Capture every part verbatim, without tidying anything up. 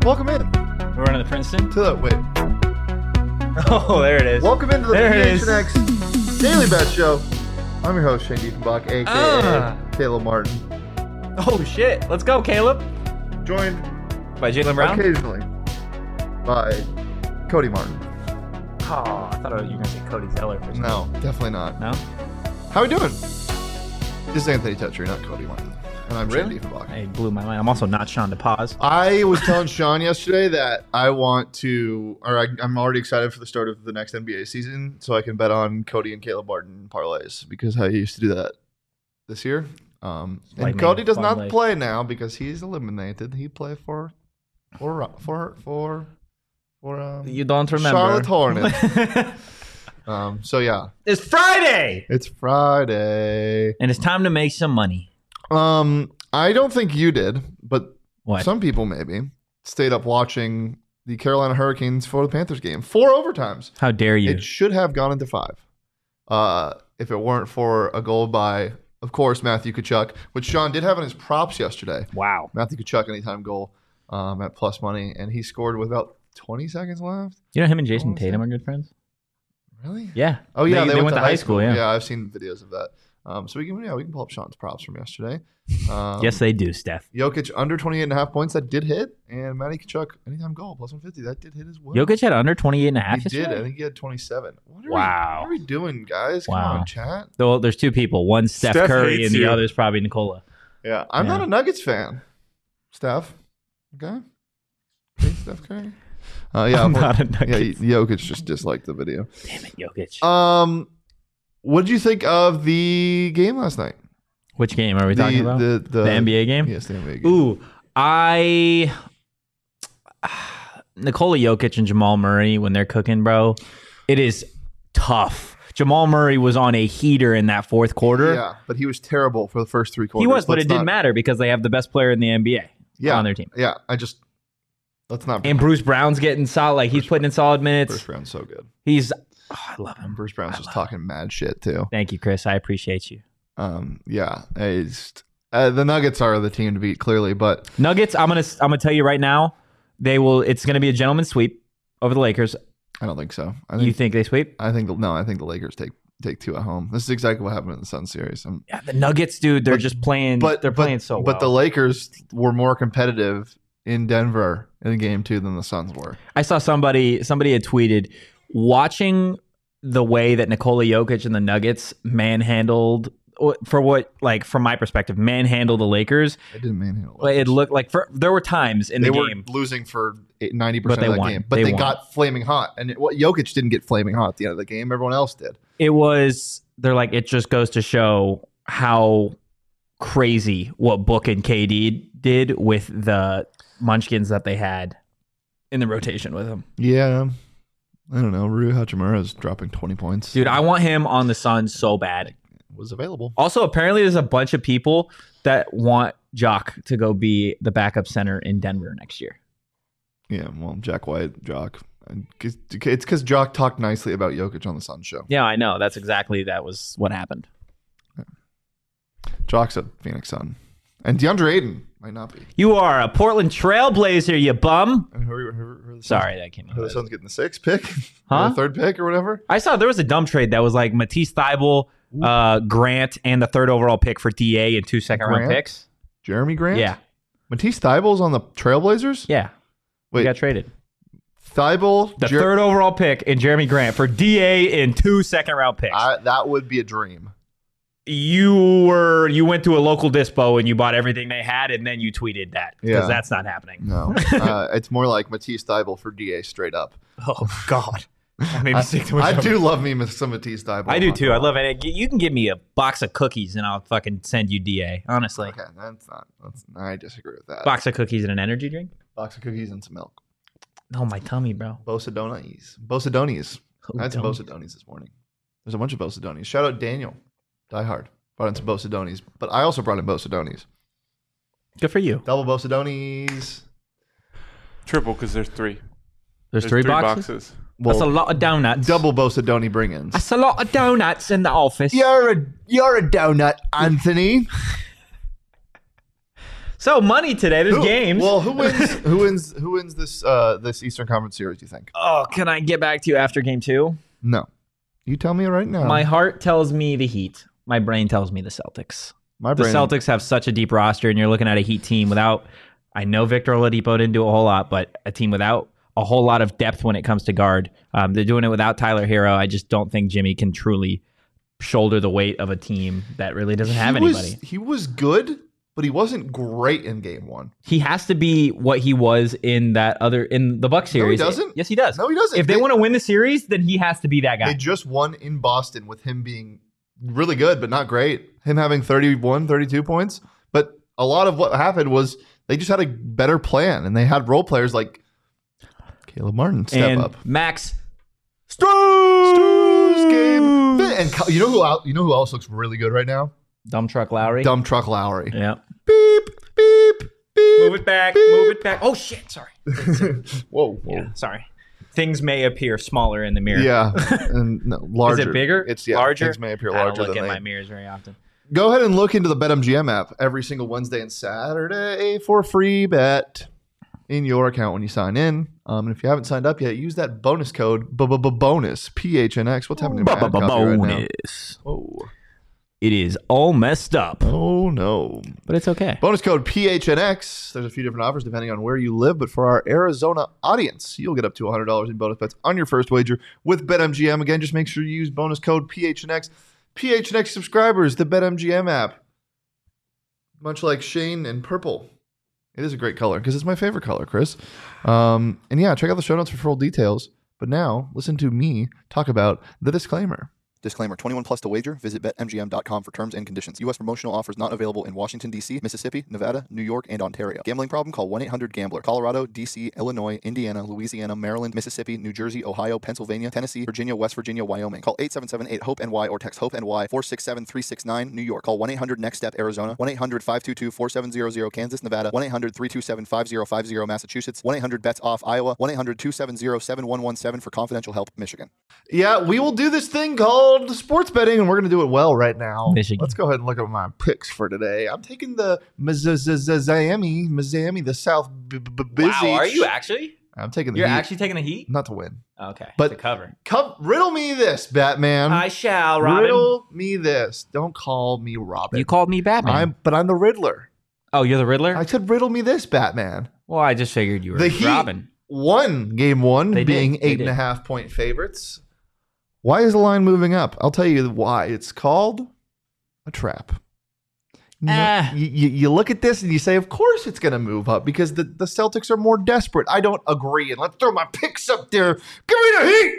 Welcome in. We're running the Princeton? To the, wait. Oh, there it is. Welcome into the There it P H is. N X Daily Bet Show. I'm your host, Shane Diefenbach, a k a. Ah. Caleb Martin. Oh, shit. Let's go, Caleb. Joined By Jalen Brown? occasionally by Cody Martin. Oh, I thought you were going to say Cody Zeller for some No, definitely not. No? How we doing? This is Anthony Tetri, not Cody Martin. And I'm Really? Shane Diefenbach. Hey, blew my mind. I'm also not Sean DePaz. I was telling Sean yesterday that I want to, or I, I'm already excited for the start of the next N B A season, so I can bet on Cody and Caleb Martin parlays because I used to do that this year. Um, and Lightning, Cody does fun not life. play now because he's eliminated. He play for, for, for, for, for um, You don't remember. Charlotte Hornets. um, so yeah, It's Friday! it's Friday. And it's time to make some money. Um, I don't think you did, but What? some people maybe stayed up watching the Carolina Hurricanes for the Panthers game. Four overtimes. How dare you? It should have gone into five. Uh, if it weren't for a goal by, of course, Matthew Tkachuk, which Sean did have in his props yesterday. Wow. Matthew Tkachuk anytime goal um, at plus money, and he scored with about twenty seconds left. You know him and Jason was Tatum that? are good friends? Really? Yeah. Oh yeah, They, they went, to high school, yeah. Yeah, I've seen videos of that. Um, so we can yeah we can pull up Sean's props from yesterday. Um, Yes, they do, Steph. Jokic under twenty-eight and a half points, that did hit. And Matty Tkachuk, anytime goal, plus one fifty, that did hit as well. Jokic had under twenty-eight and a half He did. yesterday? I think he had twenty-seven. What are Wow. We, what are we doing, guys? Come Wow. on, chat. Well, there's two people. One Steph, Steph Curry, hates and the you. other is probably Nicola. Yeah, I'm Yeah. not a Nuggets fan. Steph. Okay. Hey, Steph Curry. Uh, yeah, I'm for- not a yeah, Nuggets. Jokic just disliked the video. Damn it, Jokic. Um, what did you think of the game last night? Which game are we the, talking about? The, the, The N B A game? Yes, the N B A game. Ooh, I Nikola Jokic and Jamal Murray when they're cooking, bro. It is tough. Jamal Murray was on a heater in that fourth quarter. Yeah, but he was terrible for the first three quarters. He was, but Let's it didn't not- matter because they have the best player in the N B A Yeah, on their team. Yeah, I just let's not. And Bruce Brown's getting solid. Like he's Bruce putting in solid minutes. Bruce Brown's so good. He's. Oh, I love And him. Bruce Brown's just talking mad shit too. Thank you, Chris. I appreciate you. Um, yeah, it's, uh, the Nuggets are the team to beat clearly, but Nuggets. I'm gonna. I'm gonna tell you right now. They will. It's gonna be a gentleman's sweep over the Lakers. I don't think so. I You think think they sweep? I think the, no, I think the Lakers take take two at home. This is exactly what happened in the Sun series. Um, Yeah, the Nuggets, dude. They're But- just playing. but they're but, playing so well. But the Lakers were more competitive in Denver in game two than the Suns were. I saw somebody somebody had tweeted watching the way that Nikola Jokic and the Nuggets manhandled for what like from my perspective manhandled the Lakers. They didn't manhandle. Like, It looked like for there were times in They the were game. losing for ninety But percent they of that won. game, but They they, won. got flaming hot. And it, what Jokic didn't get flaming hot at the end of the game. Everyone else did. It was they're like it just goes to show how crazy what Book and K D did with the Munchkins that they had in the rotation with him. Yeah, I don't know. Rui Hachimura is dropping twenty points. Dude, I want him on the Suns so bad. was available. Also, apparently, there's a bunch of people that want Jock to go be the backup center in Denver next year. Yeah, well, Jack White, Jock. And 'cause- It's because Jock talked nicely about Jokic on the Sun show. Yeah, I know. That's exactly that was what happened. Jock's a Phoenix Sun. And DeAndre Ayton might not be. You are a Portland Trailblazer, you bum. And who are, who are, who are the Suns? Sorry, that came Who are the out. Suns getting the sixth pick? Huh? Or the third pick or whatever? I saw there was a dumb trade that was like Matisse Thybulle, uh, Grant, and the third overall pick for D A and two second round Grant? picks. Jeremy Grant? Yeah, Matisse Thybulle's on the Trailblazers? yeah. Wait, He got traded. Thibault? The Jer- third overall pick and Jeremy Grant for D A and two second round picks. I, that would be a dream. you were you went to a local dispo and you bought everything they had and then you tweeted that because Yeah. that's not happening. No. uh, it's more like Matisse Thybulle for D A straight up. Oh God, that made me I, sick to my I stomach. do love me some Matisse Thybulle. I do I'm not too. gonna I love lie. it. You can give me a box of cookies and I'll fucking send you D A. Honestly, Okay, that's not. That's, I disagree with that. box of cookies and an energy drink. Box of cookies and some milk. Oh my tummy, bro. Bosadonis. Bosadonis. Oh, I had some don't. Bosadonis this morning. There's a bunch of Bosadonis. Shout out Daniel. Die Hard. Brought in some Bosadonis. But I also brought in Bosadonis. Good for you. Double Bosadonis. Triple because there's three. There's, three, boxes. That's a lot of donuts. Double Bosadoni bring-ins. That's a lot of donuts in the office. You're a you're a donut, Anthony. So money today. There's Who- games. Well, who wins? Who wins? Who wins this uh, this Eastern Conference series? Do you think? oh, can I get back to you after game two? No, you tell me right now. My heart tells me the Heat. My brain tells me the Celtics. My The brain. Celtics have such a deep roster, and you're looking at a Heat team without. I know Victor Oladipo didn't do a whole lot, but a team without a whole lot of depth when it comes to guard. Um, they're doing it without Tyler Hero. I just don't think Jimmy can truly shoulder the weight of a team that really doesn't have he anybody. Was, he was good, but he wasn't great in game one. He has to be what he was in that other in the Bucks No, he series. doesn't. Yes, he does. No, he doesn't. If they, want to win the series, then he has to be that guy. They just won in Boston with him being really good, but not great. Him having thirty-one, thirty-two points. But a lot of what happened was they just had a better plan, and they had role players like Caleb Martin step and up. Max Struz game. And Ky- you know who else, you know who else looks really good right now? Dumb Truck Lowry. Dumb Truck Lowry. Yeah. Beep, beep, beep. Move it back. beep. Move it back. Oh shit! Sorry. Whoa, whoa. Yeah, sorry. Things may appear smaller in the mirror. Yeah, and no, larger. Is it bigger? It's yeah, larger. Things may appear I larger don't look than at they. my mirrors very often. Go ahead and look into the BetMGM app every single Wednesday and Saturday for a free bet in your account when you sign in. Um, and if you haven't signed up yet, use that bonus code bonus P H N X. What's happening to my ad copy right now? Bonus. Oh, It is all messed up, oh no! but it's okay. Bonus code P H N X. There's a few different offers depending on where you live, but for our Arizona audience, you'll get up to one hundred dollars in bonus bets on your first wager with BetMGM. Again, just make sure you use bonus code P H N X. P H N X subscribers, the BetMGM app. Much like Shane and purple. It is a great color because it's my favorite color, Chris. Um, and yeah, check out the show notes for full details. But now, listen to me talk about the disclaimer. Disclaimer, twenty-one plus to wager. Visit bet M G M dot com for terms and conditions. U S promotional offers not available in Washington, D C, Mississippi, Nevada, New York, and Ontario. Gambling problem? Call one eight hundred gambler. Colorado, D C, Illinois, Indiana, Louisiana, Maryland, Mississippi, New Jersey, Ohio, Pennsylvania, Tennessee, Virginia, West Virginia, Wyoming. Call eight seven seven eight hope N Y or text HOPE-N Y four six seven three six nine, New York. Call one eight hundred next step Arizona. one eight hundred five two two four seven zero zero, Kansas, Nevada. one eight hundred three two seven five zero five zero, Massachusetts. one eight hundred bets off, Iowa. one eight hundred two seven zero seven one one seven for confidential help, Michigan. Yeah, we will do this thing called sports betting, and we're going to do it well right now. Michigan. Let's go ahead and look at my picks for today. I'm taking the Miami, Miami, the South B- B- Busy. Wow, are you actually? I'm taking the You're Heat. actually taking a Heat? Not to win. Okay. But- to cover. Come, riddle me this, Batman. I shall, Robin. Riddle me this. Don't call me Robin. You called me Batman. I'm, but I'm the Riddler. oh, you're the Riddler? I said, riddle me this, Batman. well, I just figured you were The Heat Robin. won game one, They did. being They eight and did. a half point favorites. Why is the line moving up? I'll tell you why. It's called a trap. You, know, Ah. you, you, you look at this and you say, of course it's going to move up because the, the Celtics are more desperate. I don't agree. And let's throw my picks up there. Give me the Heat.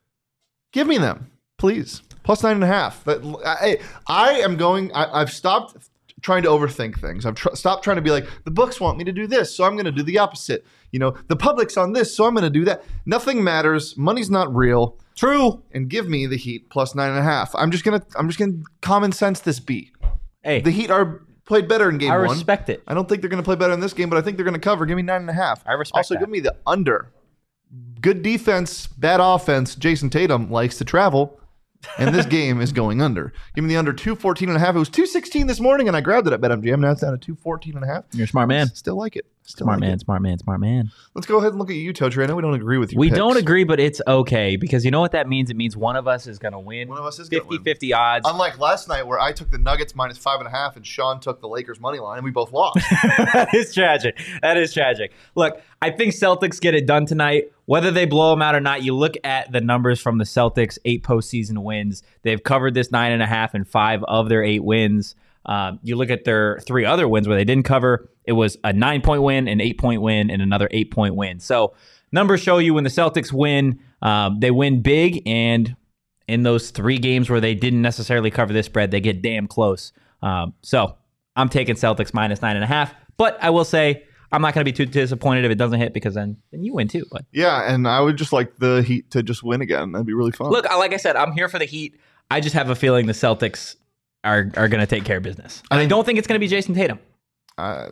Give me them, please. Plus nine and a half. But I, I am going, I, I've stopped trying to overthink things. I've tr- stopped trying to be like, the books want me to do this, so I'm going to do the opposite. You know, the public's on this, so I'm going to do that. Nothing matters. Money's not real. True. And give me the Heat plus nine and a half. I'm just gonna, I'm just gonna common sense this B. Hey, The Heat are played better in game I one. respect it. I don't think they're gonna play better in this game, but I think they're gonna cover. Give me nine and a half. I respect Also, that. give me the under. Good defense, bad offense. Jason Tatum likes to travel, and this game is going under. Give me the under two fourteen and a half. It was two sixteen this morning, and I grabbed it at BetMGM. Now it's down to two fourteen and a half. You're a smart man. Still like it. Still Smart like man, it. smart man, smart man. Let's go ahead and look at you, Toadry. I know we don't agree with you. We don't agree, but it's okay because you know what that means? It means one of us is going to win. One of us is gonna win. fifty-fifty odds. Unlike last night where I took the Nuggets minus five and a half and Sean took the Lakers money line and we both lost. That is tragic. That is tragic. Look, I think Celtics get it done tonight. Whether they blow them out or not, you look at the numbers from the Celtics' eight postseason wins. They've covered this nine and a half in five of their eight wins. Um, you look at their three other wins where they didn't cover. It was a nine-point win, an eight-point win, and another eight-point win. So numbers show you when the Celtics win, um, they win big, and in those three games where they didn't necessarily cover this spread, they get damn close. Um, so I'm taking Celtics minus nine and a half, but I will say I'm not going to be too disappointed if it doesn't hit because then, then you win too. But Yeah, and I would just like the Heat to just win again. That'd be really fun. look, like I said, I'm here for the Heat. I just have a feeling the Celtics are are going to take care of business. And I don't think it's going to be Jason Tatum. Uh,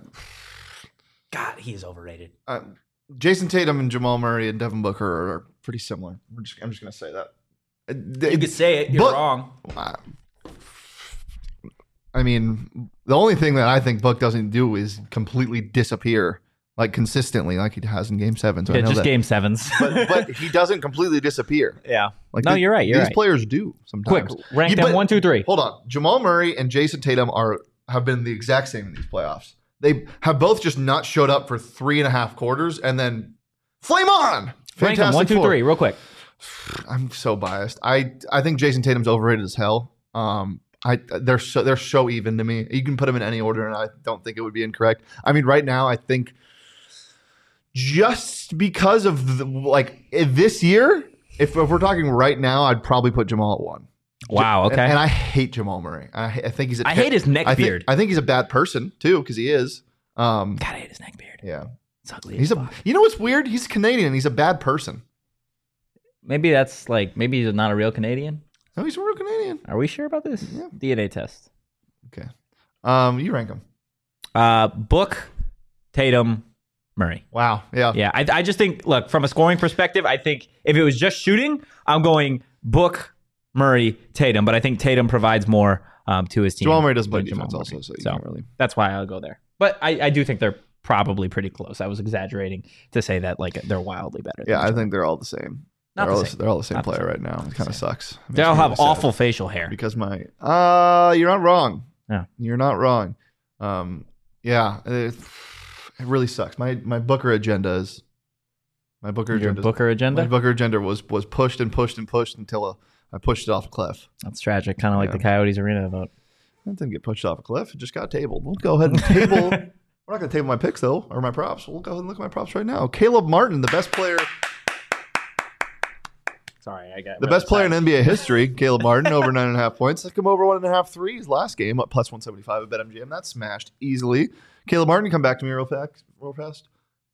God, he is overrated. uh, Jason Tatum and Jamal Murray and Devin Booker are, are pretty similar. We're just, I'm just going to say that. Uh, they- You could say it. You're but- wrong. uh, I mean, the only thing that I think Book doesn't do is completely disappear, like consistently, like he has in Game Seven. So Yeah, I know just that. game sevens. but, but he doesn't completely disappear. yeah. Like No, the- you're right. You're these right. players do sometimes. Quick, rank Yeah, them but- one, two, three. Hold on, Jamal Murray and Jason Tatum are have been the exact same in these playoffs. They have both just not showed up for three and a half quarters and then flame on. Rank them Fantastic one, two, Four. three, real quick. I'm so biased. I I think Jason Tatum's overrated as hell. Um, I they're so they're so even to me. You can put them in any order, and I don't think it would be incorrect. I mean, right now, I think just because of the, like this year, if, if we're talking right now, I'd probably put Jamal at one. Wow. Okay. And, and I hate Jamal Murray. I, I think he's. A I hate his neck I think, beard. I think he's a bad person too, because he is. Um, God, I hate his neck beard. yeah, It's ugly. he's as a. fuck. You know what's weird? He's Canadian. He's a bad person. Maybe that's like maybe he's not a real Canadian. No, he's a real Canadian. Are we sure about this? Yeah. D N A test. Okay. Um, you rank him. Uh, Book, Tatum, Murray. Wow. Yeah. Yeah, I, I just think, look, from a scoring perspective, I think if it was just shooting, I'm going Book, Murray, Tatum. But I think Tatum provides more um, to his team. Jamal Murray doesn't play than Jamal defense Murray. also, so you So can't really. that's why I'll go there. But I, I do think they're probably pretty close. I was exaggerating to say that like they're wildly better. Yeah, than I Jamal. think they're all the same. Not they're, the all same. they're all the same Not the player same. right now. It kind of sucks. It makes they all me have really sad. awful facial hair. Because my uh you're not wrong. Yeah. You're not wrong. Um yeah, it, it really sucks. My my Booker agenda is my Booker Your agenda Booker agenda? my Booker agenda was was pushed and pushed and pushed until uh, I pushed it off a cliff. That's tragic. Kind of like Yeah. the Coyotes Arena vote. It didn't get pushed off a cliff. It just got tabled. We'll go ahead and table. We're not going to table my picks though, or my props. We'll go ahead and look at my props right now. Caleb Martin, the best player, Sorry, I got the best player in N B A history. Caleb Martin over nine and a half points. Took him over one and a half threes last game, up plus one seventy five at BetMGM. That's smashed easily. Caleb Martin, come back to me real fast. Real fast.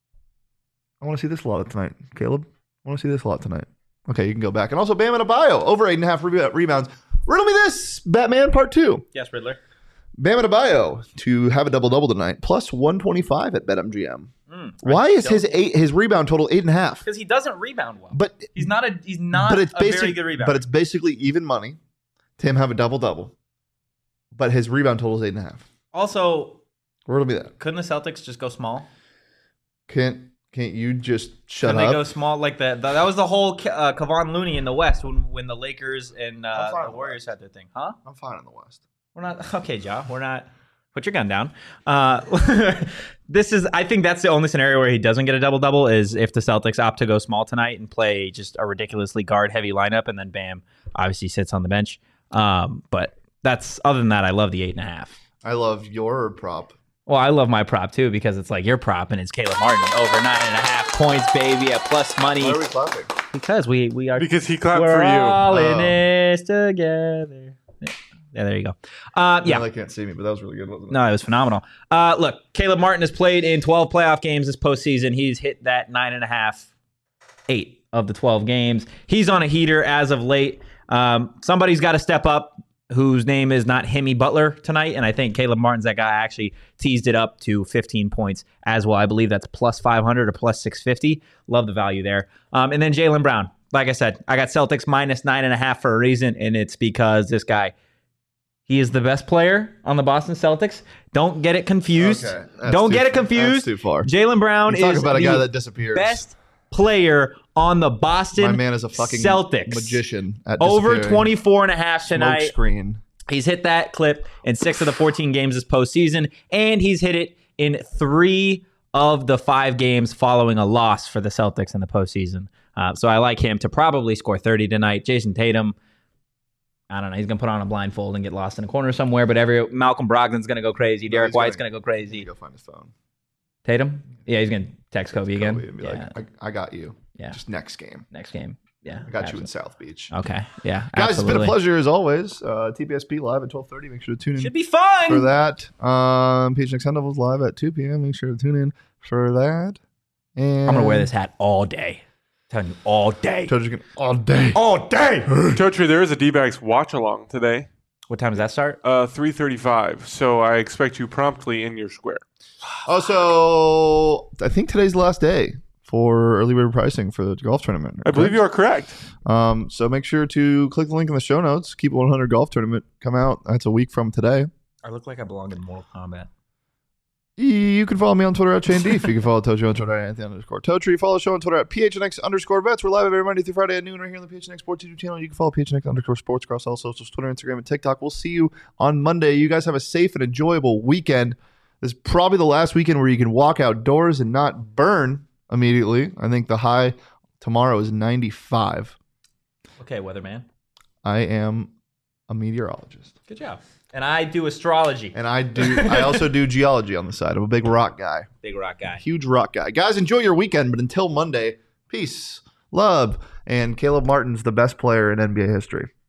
I want to see this a lot tonight, Caleb. I want to see this a lot tonight. Okay, you can go back. And also Bam Adebayo, over eight and a half re- rebounds. Riddle me this, Batman Part Two. Yes, Riddler. Bam Adebayo to have a double double tonight, plus one twenty five at BetMGM. Mm, Why is his eight his rebound total eight and a half? Because he doesn't rebound well. But he's not a he's not but it's a basic, very good rebounder. but it's basically even money to him have a double double. But his rebound total is eight and a half. also, Riddle me that. couldn't the Celtics just go small? Can't can't you just shut Couldn't up? they go small like that? That was the whole uh, Kevon Looney in the West when when the Lakers and I'm uh, fine the with Warriors had their thing, huh? I'm fine in the West. We're not okay, Ja. We're not. Put your gun down. Uh, this is. I think that's the only scenario where he doesn't get a double double is if the Celtics opt to go small tonight and play just a ridiculously guard heavy lineup, and then Bam obviously sits on the bench. Um, but that's other than that, I love the eight and a half. I love your prop. Well, I love my prop too because it's like your prop and it's Caleb Martin over nine and a half points, baby, at plus money. Why are we clapping? Because we we are Because he clapped we're for you. all in Oh. this together. Yeah, there you go. Uh, yeah. They can't see me, but that was really good, wasn't it? No, it was phenomenal. Uh, look, Caleb Martin has played in twelve playoff games this postseason. He's hit that nine and a half, eight of the twelve games. He's on a heater as of late. Um, somebody's got to step up whose name is not Hemi Butler tonight, and I think Caleb Martin's that guy. I actually teased it up to fifteen points as well. I believe that's plus five hundred or plus six fifty. Love the value there. Um, and then Jaylen Brown. Like I said, I got Celtics minus nine and a half for a reason, and it's because this guy, he is the best player on the Boston Celtics. Don't get it confused. Okay, that's Don't too get it far. confused. That's too far. Jaylen Brown You talk is about a the guy that disappears. best player on the Boston My man is a fucking Celtics. magician at Over disappearing. twenty-four and a half Smoke tonight. screen. He's hit that clip in six of the fourteen games this postseason, and he's hit it in three of the five games following a loss for the Celtics in the postseason. Uh, so I like him to probably score thirty tonight. Jason Tatum, I don't know. He's going to put on a blindfold and get lost in a corner somewhere, but every Malcolm Brogdon's going to go crazy. Derek he's White's gonna- going to go crazy. Go find his phone. Tatum? Yeah, he's going to text Kobe again. Kobe and be yeah. like, I, I got you. Yeah. Just next game. Next game. Yeah. I got you in absolutely. South Beach. Okay. Yeah. Guys, it's been absolutely. a pleasure as always. Uh, T P S P live at twelve thirty. Make sure to tune in Should be fun. for that. Um, Peach Next Sun Devils live at two p.m. Make sure to tune in for that. And I'm going to wear this hat all day. I'm telling you, all day. Trojan can all day. All day. Totri, there is a D-backs watch along today, What time does that start? uh, three thirty-five. So I expect you promptly in your square. Also, I think today's the last day for early bird pricing for the golf tournament. I believe you are correct. Um, so make sure to click the link in the show notes. Keep it one hundred golf tournament come out. That's a week from today. I look like I belong in Mortal Kombat. You can follow me on Twitter at Shane Deef. You can follow Tojo on Twitter at Anthony underscore Totri. Follow the show on Twitter at P H N X underscore vets. We're live every Monday through Friday at noon right here on the P H N X Sports YouTube channel. You can follow P H N X underscore sports across all socials, Twitter, Instagram, and TikTok. We'll see you on Monday. You guys have a safe and enjoyable weekend. This is probably the last weekend where you can walk outdoors and not burn immediately. I think the high tomorrow is ninety-five. Okay, weatherman. I am a meteorologist. Good job. And I do astrology. And I do. I also do geology on the side. I'm a big rock guy. Big rock guy. Huge rock guy. Guys, enjoy your weekend. But until Monday, peace, love, and Caleb Martin's the best player in N B A history.